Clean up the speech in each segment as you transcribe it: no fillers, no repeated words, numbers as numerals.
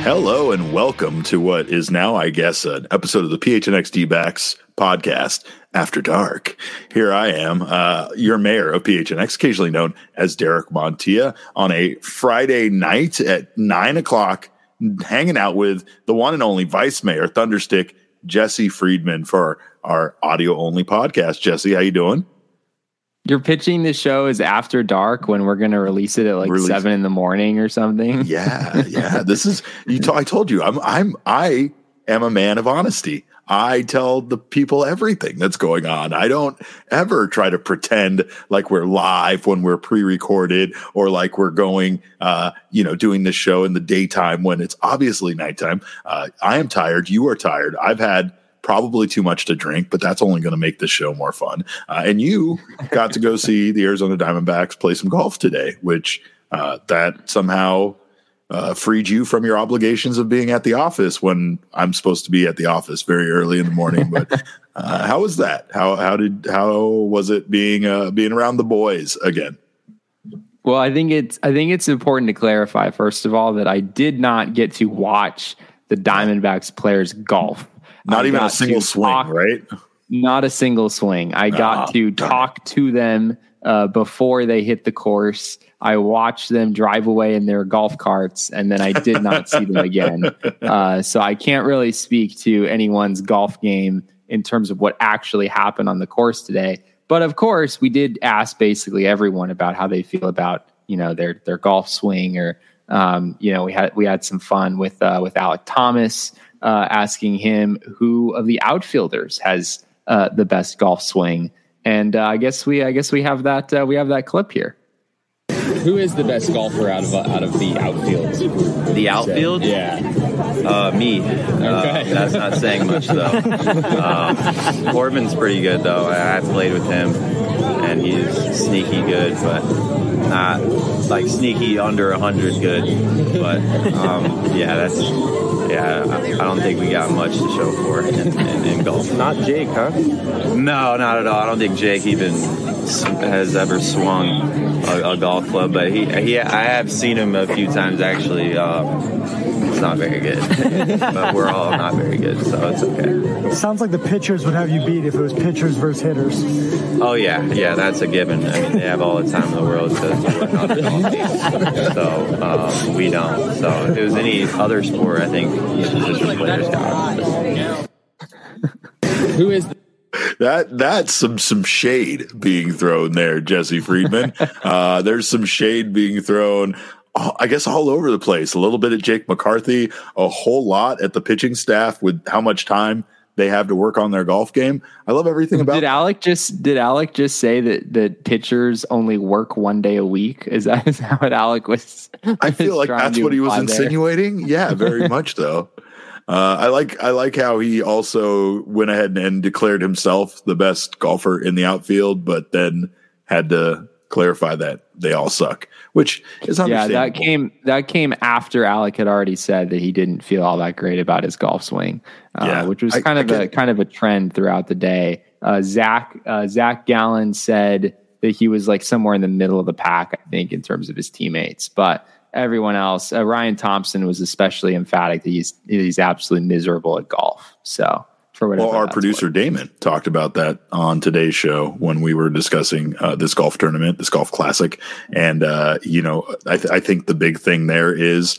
Hello and welcome to what is now, I guess, an episode of the PHNX D-Backs podcast, After Dark. Here I am, your mayor of PHNX, occasionally known as Derek Montilla, on a Friday night at 9 o'clock, hanging out with the one and only Vice Mayor, Thunderstick, Jesse Friedman, for our audio-only podcast. Jesse, how you doing? You're pitching the show as After Dark when we're going to release it at 7 in the morning or something. Yeah. This is I told you I am a man of honesty. I tell the people everything that's going on. I don't ever try to pretend like we're live when we're pre-recorded or like we're going, doing the show in the daytime when it's obviously nighttime. I am tired. You are tired. I've had probably too much to drink, but that's only going to make the show more fun. And you got to go see the Arizona Diamondbacks play some golf today, which that somehow freed you from your obligations of being at the office when I'm supposed to be at the office very early in the morning. But how was that? How was it being around the boys again? Well, I think it's important to clarify, first of all, that I did not get to watch the Diamondbacks players golf. Not even a single swing, right? Not a single swing. I got to talk to them before they hit the course. I watched them drive away in their golf carts, and then I did not see them again. So I can't really speak to anyone's golf game in terms of what actually happened on the course today. But of course, we did ask basically everyone about how they feel about their golf swing, or we had some fun with Alek Thomas. Asking him who of the outfielders has the best golf swing, and I guess we have that we have that clip here. Who is the best golfer out of the outfield? The outfield? Yeah. Me. Okay. That's not saying much though. Corbin's pretty good though. I've played with him, and he's sneaky good, but not like sneaky under 100 good. But I don't think we got much to show for in golf. Not Jake, huh? No, not at all. I don't think Jake even has ever swung a golf club, but I have seen him a few times actually. It's not very good, but we're all not very good, so it's okay. Sounds like the pitchers would have you beat if it was pitchers versus hitters. Oh yeah, that's a given. I mean, they have all the time in the world to work on the golf team. So we don't. So if it was any other sport, I think the position players got it. Who is That's some shade being thrown there, Jesse Friedman. There's some shade being thrown, I guess, all over the place. A little bit at Jake McCarthy, a whole lot at the pitching staff with how much time they have to work on their golf game. I love everything about. Did Alek just say that pitchers only work one day a week? Is that what Alek was? I feel like that's what he was insinuating. There. Yeah, very much though. I like how he also went ahead and declared himself the best golfer in the outfield, but then had to clarify that they all suck, which is understandable. Yeah, that came after Alek had already said that he didn't feel all that great about his golf swing, which was kind of a trend throughout the day. Zach Gallen said that he was like somewhere in the middle of the pack, I think, in terms of his teammates, but everyone else, Ryan Thompson was especially emphatic that he's absolutely miserable at golf. So for whatever. Well, our producer Damon talked about that on today's show when we were discussing this golf tournament, this golf classic, and I think the big thing there is,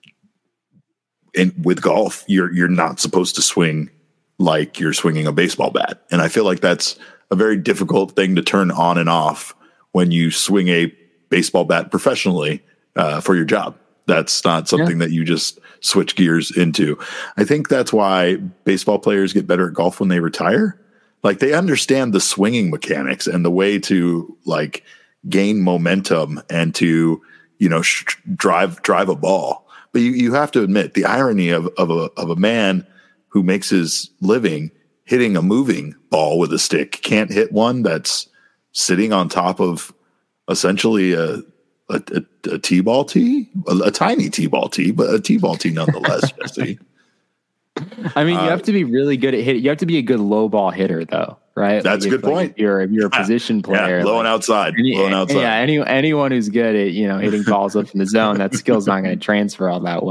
with golf, you're not supposed to swing like you're swinging a baseball bat, and I feel like that's a very difficult thing to turn on and off when you swing a baseball bat professionally. For your job. That's not something that you just switch gears into. I think that's why baseball players get better at golf when they retire. Like, they understand the swinging mechanics and the way to like gain momentum and to, drive a ball. But you have to admit the irony of a man who makes his living hitting a moving ball with a stick can't hit one that's sitting on top of essentially a T-ball tee, a tiny T-ball tee, but a T-ball tee nonetheless, Jesse. I mean, you have to be really good at hitting. You have to be a good low ball hitter, though, right? That's a good point. If you're a position player, low and outside. Yeah, anyone who's good at hitting balls up in the zone, that skill's not going to transfer all that well.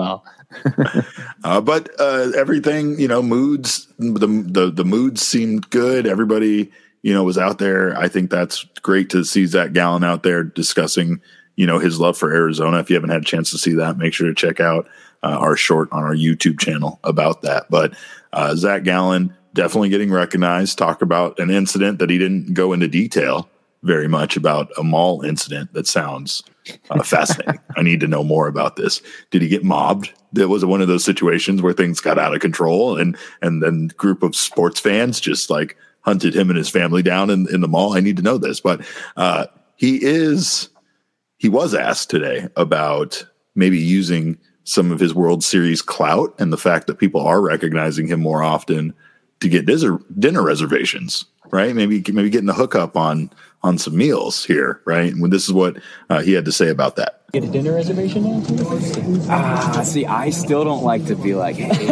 But everything, moods, the moods seemed good. Everybody, was out there. I think that's great to see Zach Gallen out there discussing, his love for Arizona. If you haven't had a chance to see that, make sure to check out our short on our YouTube channel about that. But Zach Gallen definitely getting recognized. Talk about an incident that he didn't go into detail very much about, a mall incident that sounds fascinating. I need to know more about this. Did he get mobbed? That was one of those situations where things got out of control and then group of sports fans just like hunted him and his family down in the mall. I need to know this, but he was asked today about maybe using some of his World Series clout and the fact that people are recognizing him more often to get dinner reservations, right? Maybe getting the hookup on some meals here, right? And this is what he had to say about that. Get a dinner reservation now? See, I still don't like to be like, hey,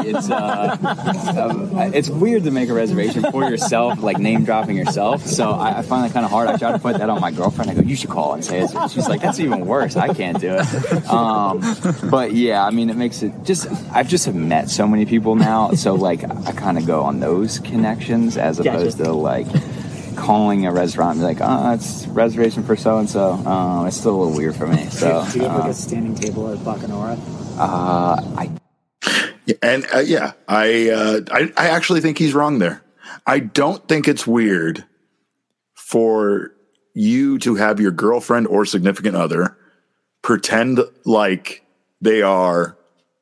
it's weird to make a reservation for yourself, like name dropping yourself. So I find that kind of hard. I try to put that on my girlfriend. I go, you should call and say it. She's like, that's even worse. I can't do it. But yeah, I mean, it makes it I've just met so many people now. So like, I kind of go on those connections as opposed to like calling a restaurant and be like, it's reservation for so-and-so. It's still a little weird for me. So do you have like a standing table at Bacanora? I actually think he's wrong there. I don't think it's weird for you to have your girlfriend or significant other pretend like they are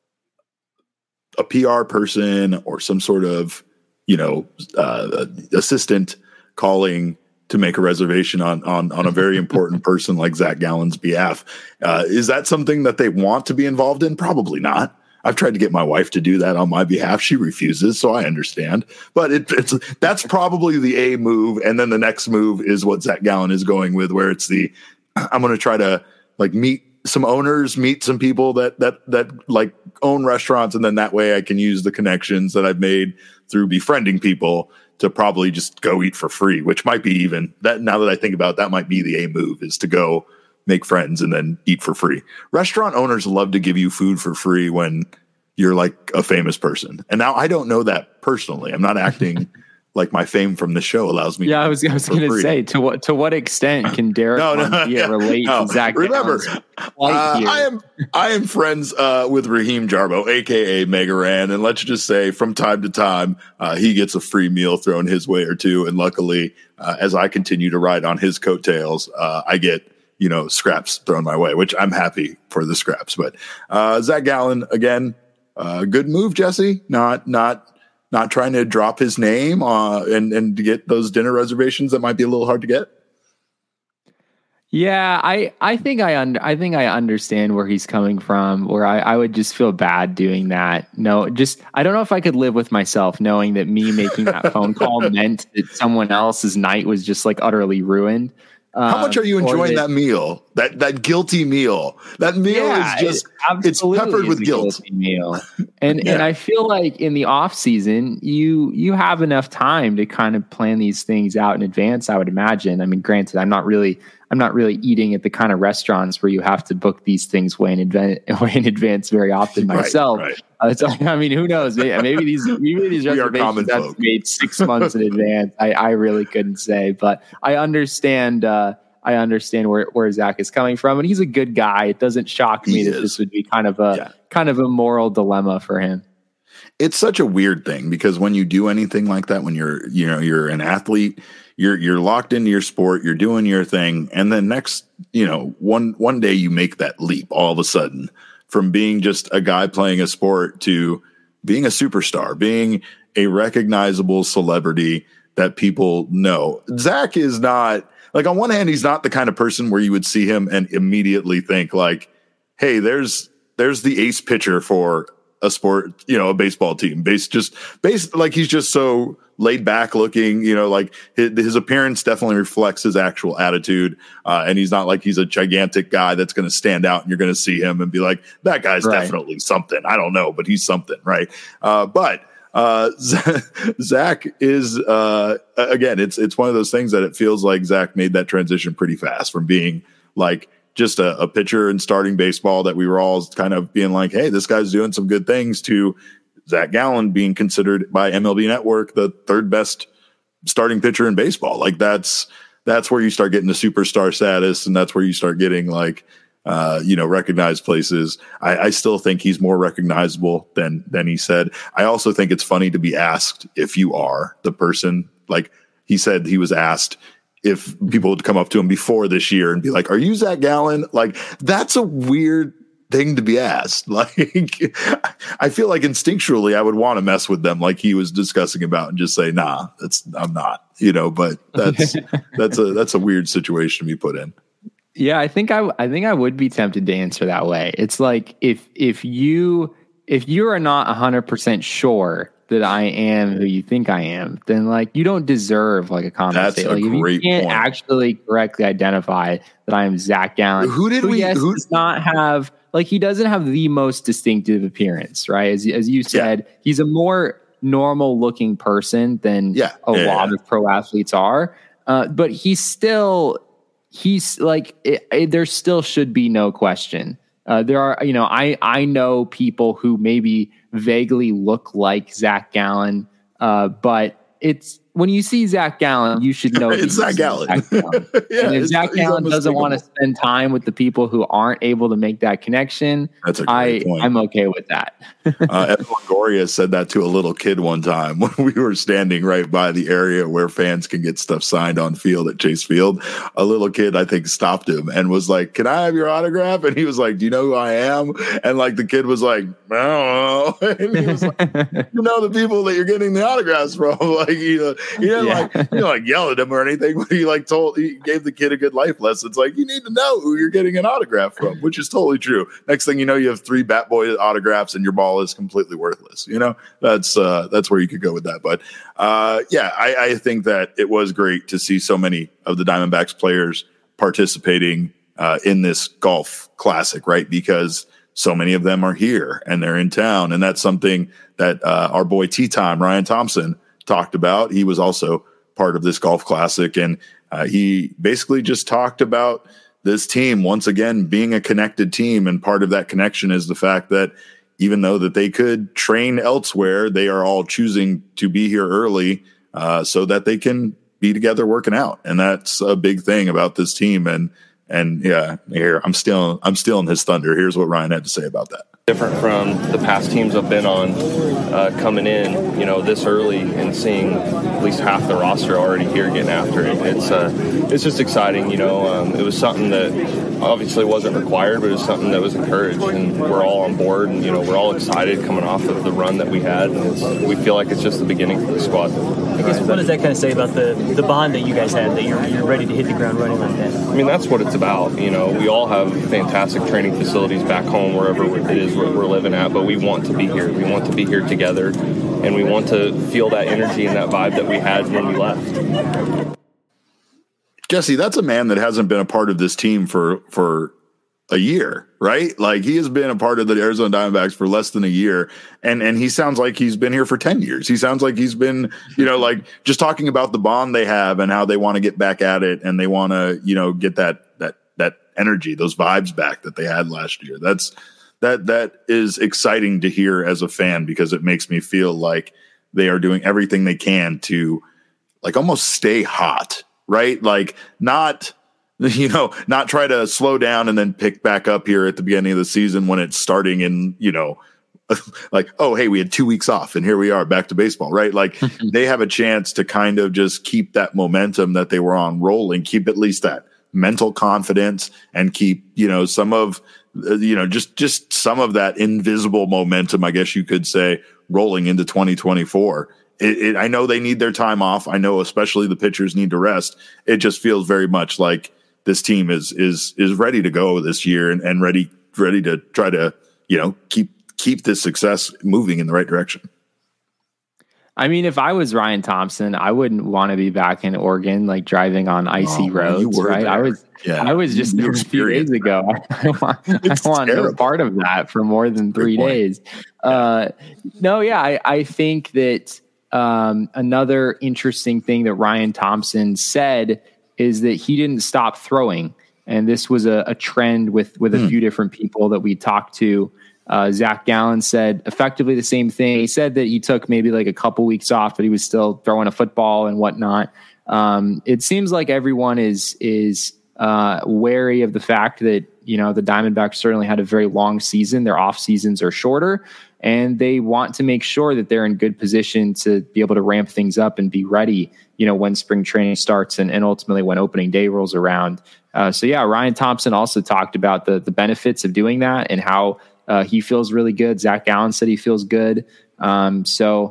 a PR person or some sort of, assistant calling to make a reservation on a very important person like Zach Gallen's behalf. Is that something that they want to be involved in? Probably not. I've tried to get my wife to do that on my behalf. She refuses, so I understand. But that's probably the A move, and then the next move is what Zach Gallen is going with, where it's I'm going to try to like meet some owners, meet some people that like own restaurants, and then that way I can use the connections that I've made through befriending people to probably just go eat for free, which might be even that. Now that I think about it, that might be the A move, is to go make friends and then eat for free. Restaurant owners love to give you food for free when you're like a famous person. And now I don't know that personally. I'm not acting like my fame from the show allows me. Yeah, I was going to say, to what extent can Derek relate to Zach? Remember, I am friends with Raheem Jarbo, aka Megaran, and let's just say from time to time he gets a free meal thrown his way or two, and luckily, as I continue to ride on his coattails, I get scraps thrown my way, which I'm happy for the scraps. But Zach Gallen again, good move, Jesse. Not trying to drop his name and to get those dinner reservations that might be a little hard to get. Yeah, I think I understand where he's coming from, where I would just feel bad doing that. No, just I don't know if I could live with myself knowing that me making that phone call meant that someone else's night was just like utterly ruined. How much are you enjoying that meal? That guilty meal. That meal is just it's peppered with guilt. Meal. And I feel like in the off season, you have enough time to kind of plan these things out in advance, I would imagine. I mean, granted, I'm not really eating at the kind of restaurants where you have to book these things way in advance very often myself. Right. I mean, who knows? Maybe these reservations have made 6 months in advance. I really couldn't say, but I understand. I understand where Zach is coming from, and he's a good guy. It doesn't shock me that this would be kind of a moral dilemma for him. It's such a weird thing because when you do anything like that, when you're an athlete, you're locked into your sport, you're doing your thing, and then next, one day you make that leap all of a sudden from being just a guy playing a sport to being a superstar, being a recognizable celebrity that people know. Zach is not, like, on one hand, he's not the kind of person where you would see him and immediately think like, hey, there's the ace pitcher for a sport, a baseball team. Based like he's just so laid back looking, like his appearance definitely reflects his actual attitude. And he's not like he's a gigantic guy that's going to stand out and you're going to see him and be like, that guy's definitely something. I don't know, but he's something. Right. But Zach is, again, it's one of those things that it feels like Zach made that transition pretty fast from being like just a pitcher in starting baseball that we were all kind of being like, hey, this guy's doing some good things, to Zach Gallen being considered by MLB Network the third best starting pitcher in baseball. Like that's where you start getting the superstar status, and that's where you start getting like, recognized places. I still think he's more recognizable than he said. I also think it's funny to be asked if you are the person. Like he said, he was asked if people would come up to him before this year and be like, "Are you Zach Gallen?" Like that's a weird thing to be asked. Like I feel like instinctually I would want to mess with them, like he was discussing about, and just say, "Nah, I'm not." But that's a weird situation to be put in. Yeah, I think I would be tempted to answer that way. It's like if you are not 100% sure that I am who you think I am, then like you don't deserve like a conversation. Like if you can't actually correctly identify that I am Zach Gallen, who does not have, like, he doesn't have the most distinctive appearance, right? As you said, he's a more normal looking person than a lot of pro athletes are, but he's like, there still should be no question. There are, I know people who maybe vaguely look like Zach Gallen, but it's when you see Zach Gallen, you should know it's Zach Gallen. And if Zach Gallen doesn't want to spend time with the people who aren't able to make that connection, that's a great point. I'm okay with that. Evan Longoria said that to a little kid one time when we were standing right by the area where fans can get stuff signed on field at Chase Field. A little kid, I think, stopped him and was like, "Can I have your autograph?" And he was like, "Do you know who I am?" And like the kid was like, "I don't know." And he was like, "You know the people that you're getting the autographs from?" Like he didn't like yell at him or anything, but he gave the kid a good life lesson. It's like, you need to know who you're getting an autograph from, which is totally true. Next thing you know, you have 3 Bat Boy autographs and your ball is completely worthless. That's where you could go with that. But I think that it was great to see so many of the Diamondbacks players participating in this golf classic, right? Because so many of them are here and they're in town. And that's something that our boy Tea Time, Ryan Thompson, talked about. He was also part of this golf classic, and he basically just talked about this team once again being a connected team, and part of that connection is the fact that even though that they could train elsewhere, they are all choosing to be here early so that they can be together working out, and that's a big thing about this team. And yeah, here I'm stealing his thunder. Here's what Ryan had to say about that. Different from the past teams I've been on, coming in, this early and seeing at least half the roster already here getting after it. It's just exciting, It was something that obviously wasn't required, but it was something that was encouraged, and we're all on board, and we're all excited coming off of the run that we had, and we feel like it's just the beginning for the squad. I guess what does that kind of say about the bond that you guys had, that you're ready to hit the ground running like that? I mean, that's what it's about. We all have fantastic training facilities back home, wherever it is we're living at, but we want to be here. We want to be here together, and we want to feel that energy and that vibe that we had when we left. Jesse, that's a man that hasn't been a part of this team for a year, right? Like, he has been a part of the Arizona Diamondbacks for less than a year, and he sounds like he's been here for 10 years. He sounds like he's been, like, just talking about the bond they have and how they want to get back at it, and they want to, get that energy, those vibes back that they had last year. That is exciting to hear as a fan, because it makes me feel like they are doing everything they can to, like, almost stay hot, right? Like, not try to slow down and then pick back up here at the beginning of the season when it's starting in, like, oh, hey, we had 2 weeks off and here we are back to baseball, right? Like, they have a chance to kind of just keep that momentum that they were on rolling, keep at least that mental confidence, and keep, some of, just some of that invisible momentum, I guess you could say, rolling into 2024. I know they need their time off. I know especially the pitchers need to rest. It just feels very much like this team is ready to go this year and ready to try to, keep this success moving in the right direction. I mean, if I was Ryan Thompson, I wouldn't want to be back in Oregon, like driving on icy roads, right? There. I was just there a few days ago. I want no part of that for more than 3 days. I think that another interesting thing that Ryan Thompson said is that he didn't stop throwing. And this was a trend with a few different people that we talked to. Zach Gallen said effectively the same thing. He said that he took maybe like a couple weeks off, but he was still throwing a football and whatnot. It seems like everyone is wary of the fact that, the Diamondbacks certainly had a very long season. Their off seasons are shorter, and they want to make sure that they're in good position to be able to ramp things up and be ready, when spring training starts and ultimately when opening day rolls around. Ryan Thompson also talked about the benefits of doing that and how he feels really good. Zach Gallen said he feels good. So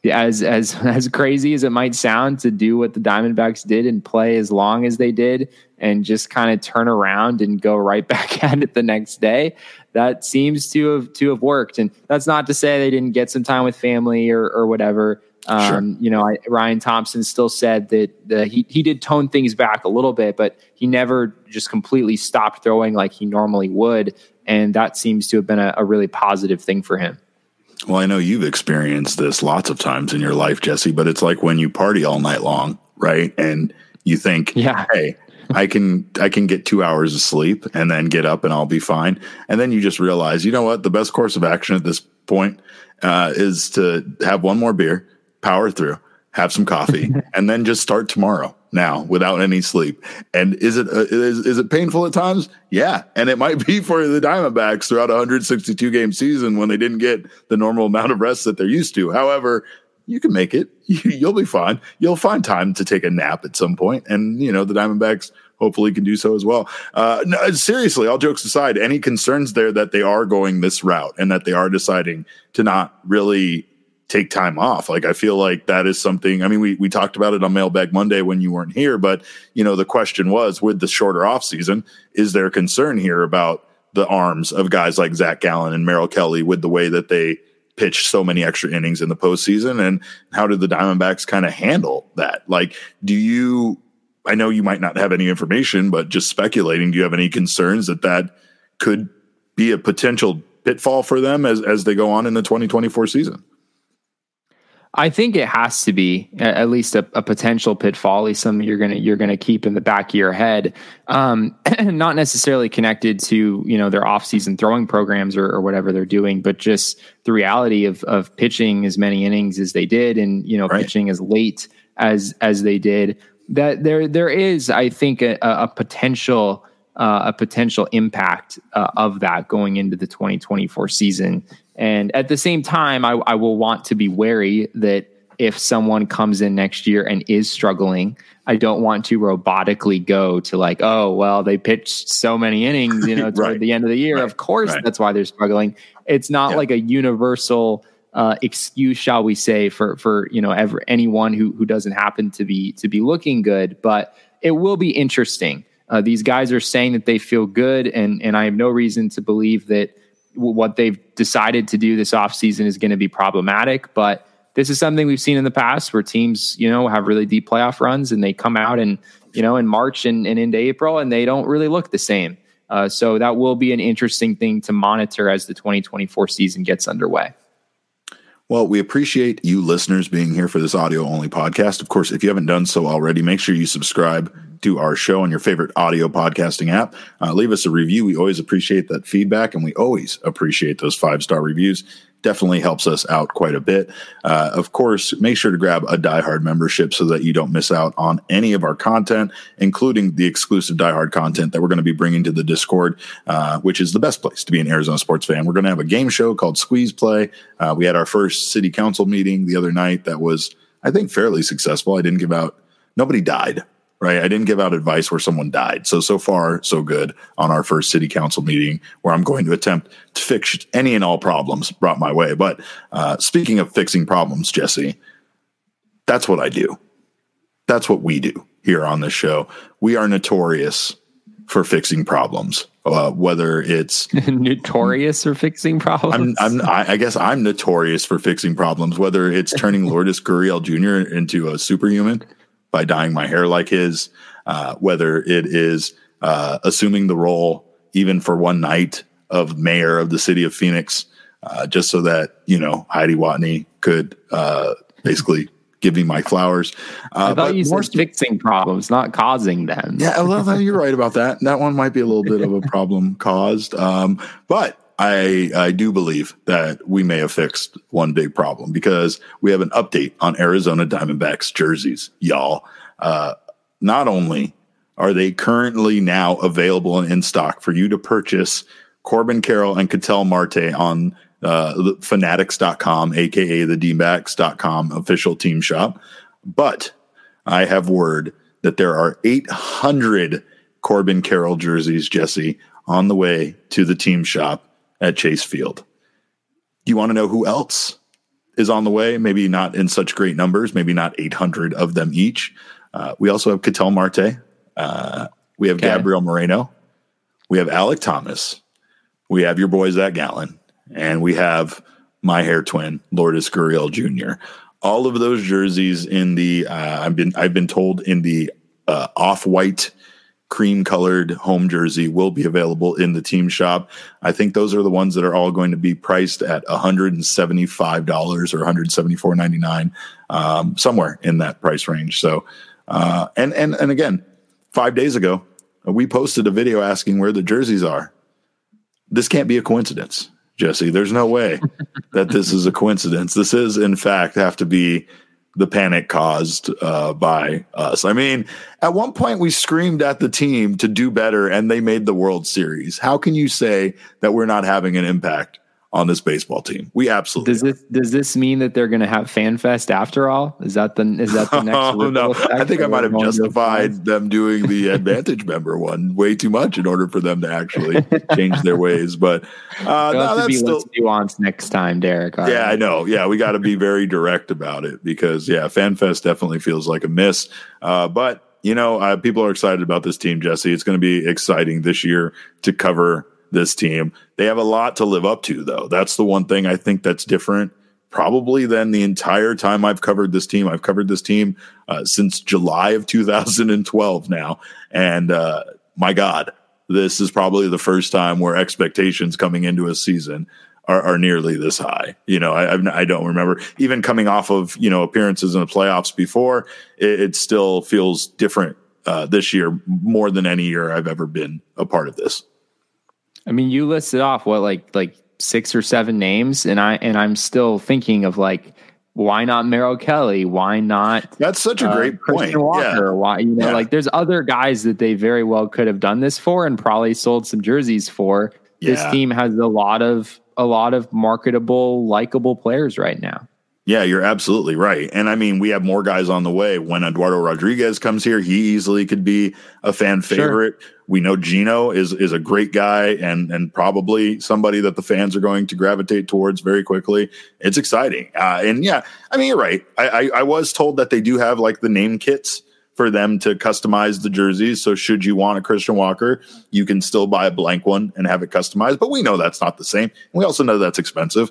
as crazy as it might sound to do what the Diamondbacks did and play as long as they did and just kind of turn around and go right back at it the next day, that seems to have worked. And that's not to say they didn't get some time with family or whatever. Sure. Ryan Thompson still said that he did tone things back a little bit, but he never just completely stopped throwing like he normally would. And that seems to have been a really positive thing for him. Well, I know you've experienced this lots of times in your life, Jesse, but it's like when you party all night long, right? And you think, hey, I can get 2 hours of sleep and then get up and I'll be fine. And then you just realize, you know what? The best course of action at this point is to have one more beer, power through, have some coffee, and then just start tomorrow now without any sleep. And is it painful at times? Yeah. And it might be for the Diamondbacks throughout a 162 game season when they didn't get the normal amount of rest that they're used to. However, you can make it. You'll be fine. You'll find time to take a nap at some point. And, the Diamondbacks hopefully can do so as well. No, seriously, all jokes aside, any concerns there that they are going this route and that they are deciding to not really take time off? Like, I feel like that is something, I mean, we talked about it on Mailbag Monday when you weren't here, but the question was, with the shorter off season, is there concern here about the arms of guys like Zach Gallen and Merrill Kelly with the way that they pitch so many extra innings in the postseason? And how did the Diamondbacks kind of handle that? Like, I know you might not have any information, but just speculating, do you have any concerns that could be a potential pitfall for them as they go on in the 2024 season? I think it has to be at least a potential pitfall, at least something you're gonna keep in the back of your head. Not necessarily connected to their off-season throwing programs or whatever they're doing, but just the reality of pitching as many innings as they did, and right. pitching as late as they did. That there is, I think, a potential impact of that going into the 2024 season. And at the same time, I will want to be wary that if someone comes in next year and is struggling, I don't want to robotically go to like, oh, well, they pitched so many innings, toward right. the end of the year. Right. Of course, right. That's why they're struggling. It's not like a universal excuse, shall we say, for anyone who doesn't happen to be looking good. But it will be interesting. These guys are saying that they feel good, and I have no reason to believe that what they've decided to do this offseason is going to be problematic. But this is something we've seen in the past where teams, have really deep playoff runs and they come out and, in March and into April, and they don't really look the same. So that will be an interesting thing to monitor as the 2024 season gets underway. Well, we appreciate you listeners being here for this audio-only podcast. Of course, if you haven't done so already, make sure you subscribe to our show on your favorite audio podcasting app. Leave us a review. We always appreciate that feedback, and we always appreciate those 5-star reviews. Definitely helps us out quite a bit. Of course, make sure to grab a Die Hard membership so that you don't miss out on any of our content, including the exclusive Die Hard content that we're going to be bringing to the Discord, which is the best place to be an Arizona sports fan. We're going to have a game show called Squeeze Play. We had our first city council meeting the other night that was, I think, fairly successful. Nobody died. Right. I didn't give out advice where someone died. So far, so good on our first city council meeting, where I'm going to attempt to fix any and all problems brought my way. But speaking of fixing problems, Jesse, that's what I do. That's what we do here on this show. We are notorious for fixing problems, whether it's notorious for fixing problems. I guess I'm notorious for fixing problems, whether it's turning Lourdes Gurriel Jr. into a superhuman by dyeing my hair like his, whether it is assuming the role even for one night of mayor of the city of Phoenix, just so that, Heidi Watney could basically give me my flowers. I thought you said fixing problems, not causing them. Yeah, well, you're right about that. That one might be a little bit of a problem caused. But I do believe that we may have fixed one big problem because we have an update on Arizona Diamondbacks jerseys, y'all. Not only are they currently now available and in stock for you to purchase Corbin Carroll and Ketel Marte on fanatics.com, aka the dbacks.com official team shop. But I have word that there are 800 Corbin Carroll jerseys, Jesse, on the way to the team shop at Chase Field. Do you want to know who else is on the way? Maybe not in such great numbers, maybe not 800 of them each. We also have Ketel Marte. We have Gabriel Moreno. We have Alec Thomas. We have your boy Zach Gallen. And we have my hair twin, Lourdes Gurriel Jr. All of those jerseys in the I've been told in the off-white cream-colored home jersey will be available in the team shop. I think those are the ones that are all going to be priced at $175 or $174.99, somewhere in that price range. So, and again, 5 days ago, we posted a video asking where the jerseys are. This can't be a coincidence, Jesse. There's no way that this is a coincidence. This is, in fact, have to be the panic caused by us. I mean, at one point we screamed at the team to do better and they made the World Series. How can you say that we're not having an impact on this baseball team? We absolutely does this mean that they're going to have Fan Fest after all? Is that the next? No, I think I might have justified them doing the Advantage member one way too much in order for them to actually change their ways. But no, that's still nuanced next time, Derek. Yeah, right. I know. Yeah, we got to be very direct about it because Fan Fest definitely feels like a miss. But people are excited about this team, Jesse. It's going to be exciting this year to cover this team. They have a lot to live up to, though. That's the one thing I think that's different probably than the entire time I've covered this team. I've covered this team since July of 2012 now. And my God, this is probably the first time where expectations coming into a season are nearly this high. I don't remember even coming off of, appearances in the playoffs before. It still feels different this year more than any year I've ever been a part of this. I mean, you listed off like 6 or 7 names, and I'm still thinking of why not Merrill Kelly? Why not? That's such a great Christian point. Walker? Yeah. Why there's other guys that they very well could have done this for and probably sold some jerseys for. Yeah. This team has a lot of marketable, likable players right now. Yeah, you're absolutely right. And I mean, we have more guys on the way. When Eduardo Rodriguez comes here, he easily could be a fan favorite. Sure. We know Gino is a great guy and probably somebody that the fans are going to gravitate towards very quickly. It's exciting. And yeah, I mean, you're right. I was told that they do have the name kits for them to customize the jerseys. So should you want a Christian Walker, you can still buy a blank one and have it customized. But we know that's not the same. We also know that's expensive.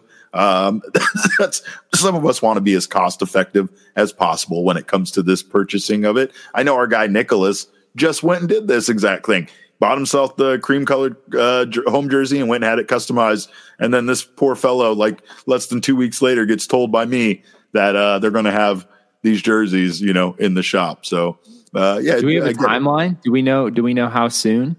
That's some of us want to be as cost effective as possible when it comes to this purchasing of it. I know our guy Nicholas just went and did this exact thing. Bought himself the cream colored home jersey and went and had it customized. And then this poor fellow, less than 2 weeks later, gets told by me that they're going to have these jerseys, in the shop. So yeah. Do we have a timeline? Do we know how soon?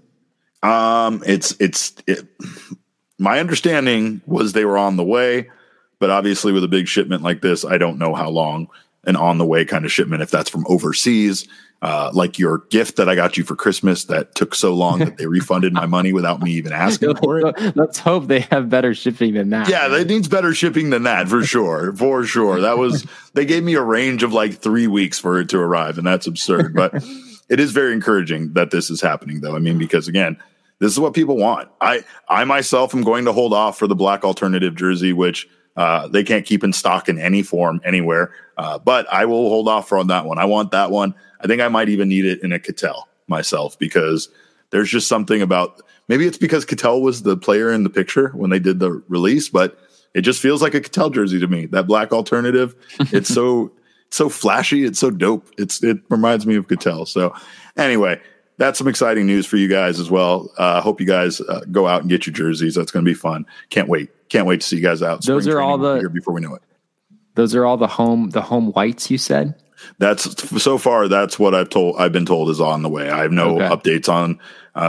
My understanding was they were on the way, but obviously with a big shipment like this, I don't know how long an on the way kind of shipment, if that's from overseas, like your gift that I got you for Christmas that took so long that they refunded my money without me even asking for it. Let's hope they have better shipping than that. Yeah, they need better shipping than that for sure. For sure. They gave me a range of 3 weeks for it to arrive, and that's absurd. But it is very encouraging that this is happening, though. I mean, because again, this is what people want. I myself am going to hold off for the black alternative jersey, which they can't keep in stock in any form anywhere. But I will hold off on that one. I want that one. I think I might even need it in a Ketel myself because there's just something about, maybe it's because Ketel was the player in the picture when they did the release, but it just feels like a Ketel jersey to me. That black alternative, it's so flashy. It's so dope. It reminds me of Ketel. So anyway, that's some exciting news for you guys as well. Hope you guys go out and get your jerseys. That's going to be fun. Can't wait. Can't wait to see you guys out. Those are all before we know it. Those are all the home whites you said? That's so far. That's what I've been told is on the way. I have no updates on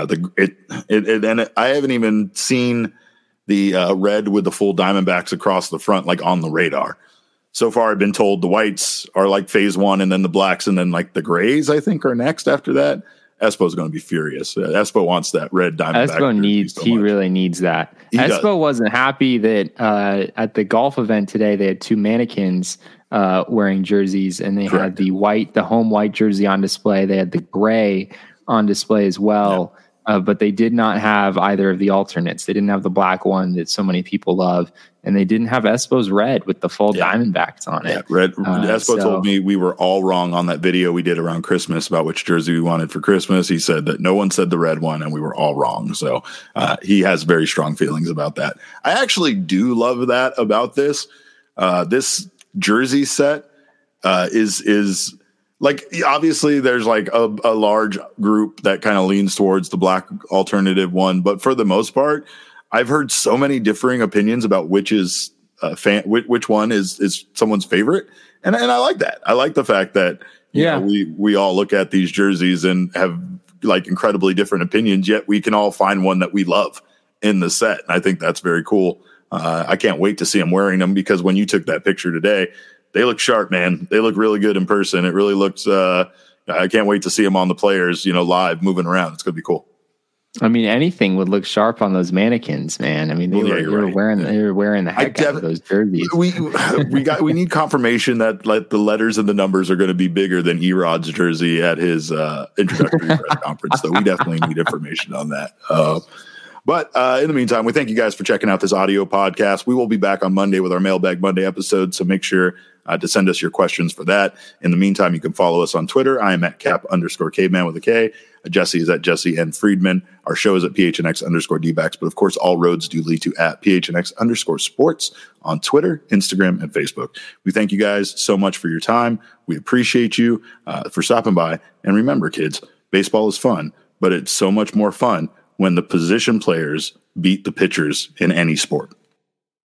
and I haven't even seen the red with the full Diamondbacks across the front, like on the radar. So far, I've been told the whites are like phase one, and then the blacks, and then like the grays, I think, are next after that. Espo's going to be furious. Espo wants that red Diamondback. Espo he really needs that. Espo wasn't happy that at the golf event today, they had two mannequins wearing jerseys, and they had the home white jersey on display. They had the gray on display as well. Yeah. But they did not have either of the alternates. They didn't have the black one that so many people love, and they didn't have Espo's red with the full Diamondbacks on it. Yeah, red. Espo told me we were all wrong on that video we did around Christmas about which jersey we wanted for Christmas. He said that no one said the red one, and we were all wrong. So he has very strong feelings about that. I actually do love that about this. This jersey set is like, obviously there's like a large group that kind of leans towards the black alternative one, but for the most part, I've heard so many differing opinions about which one is someone's favorite, and I like that. I like the fact that you know, we all look at these jerseys and have like incredibly different opinions, yet we can all find one that we love in the set. And I think that's very cool. I can't wait to see them wearing them, because when you took that picture today, they look sharp, man. They look really good in person. It really looks, I can't wait to see them on the players, live moving around. It's going to be cool. I mean, anything would look sharp on those mannequins, man. I mean, they were wearing the heck out of those jerseys. We need confirmation that like the letters and the numbers are going to be bigger than Erod's jersey at his introductory press conference. So we definitely need information on that. But in the meantime, we thank you guys for checking out this audio podcast. We will be back on Monday with our Mailbag Monday episode, so make sure to send us your questions for that. In the meantime, you can follow us on Twitter. I am at Cap_Caveman with a K. Jesse is at Jesse N. Friedman. Our show is at PHNX_DBacks. But of course, all roads do lead to at PHNX_sports on Twitter, Instagram, and Facebook. We thank you guys so much for your time. We appreciate you for stopping by. And remember, kids, baseball is fun, but it's so much more fun when the position players beat the pitchers in any sport.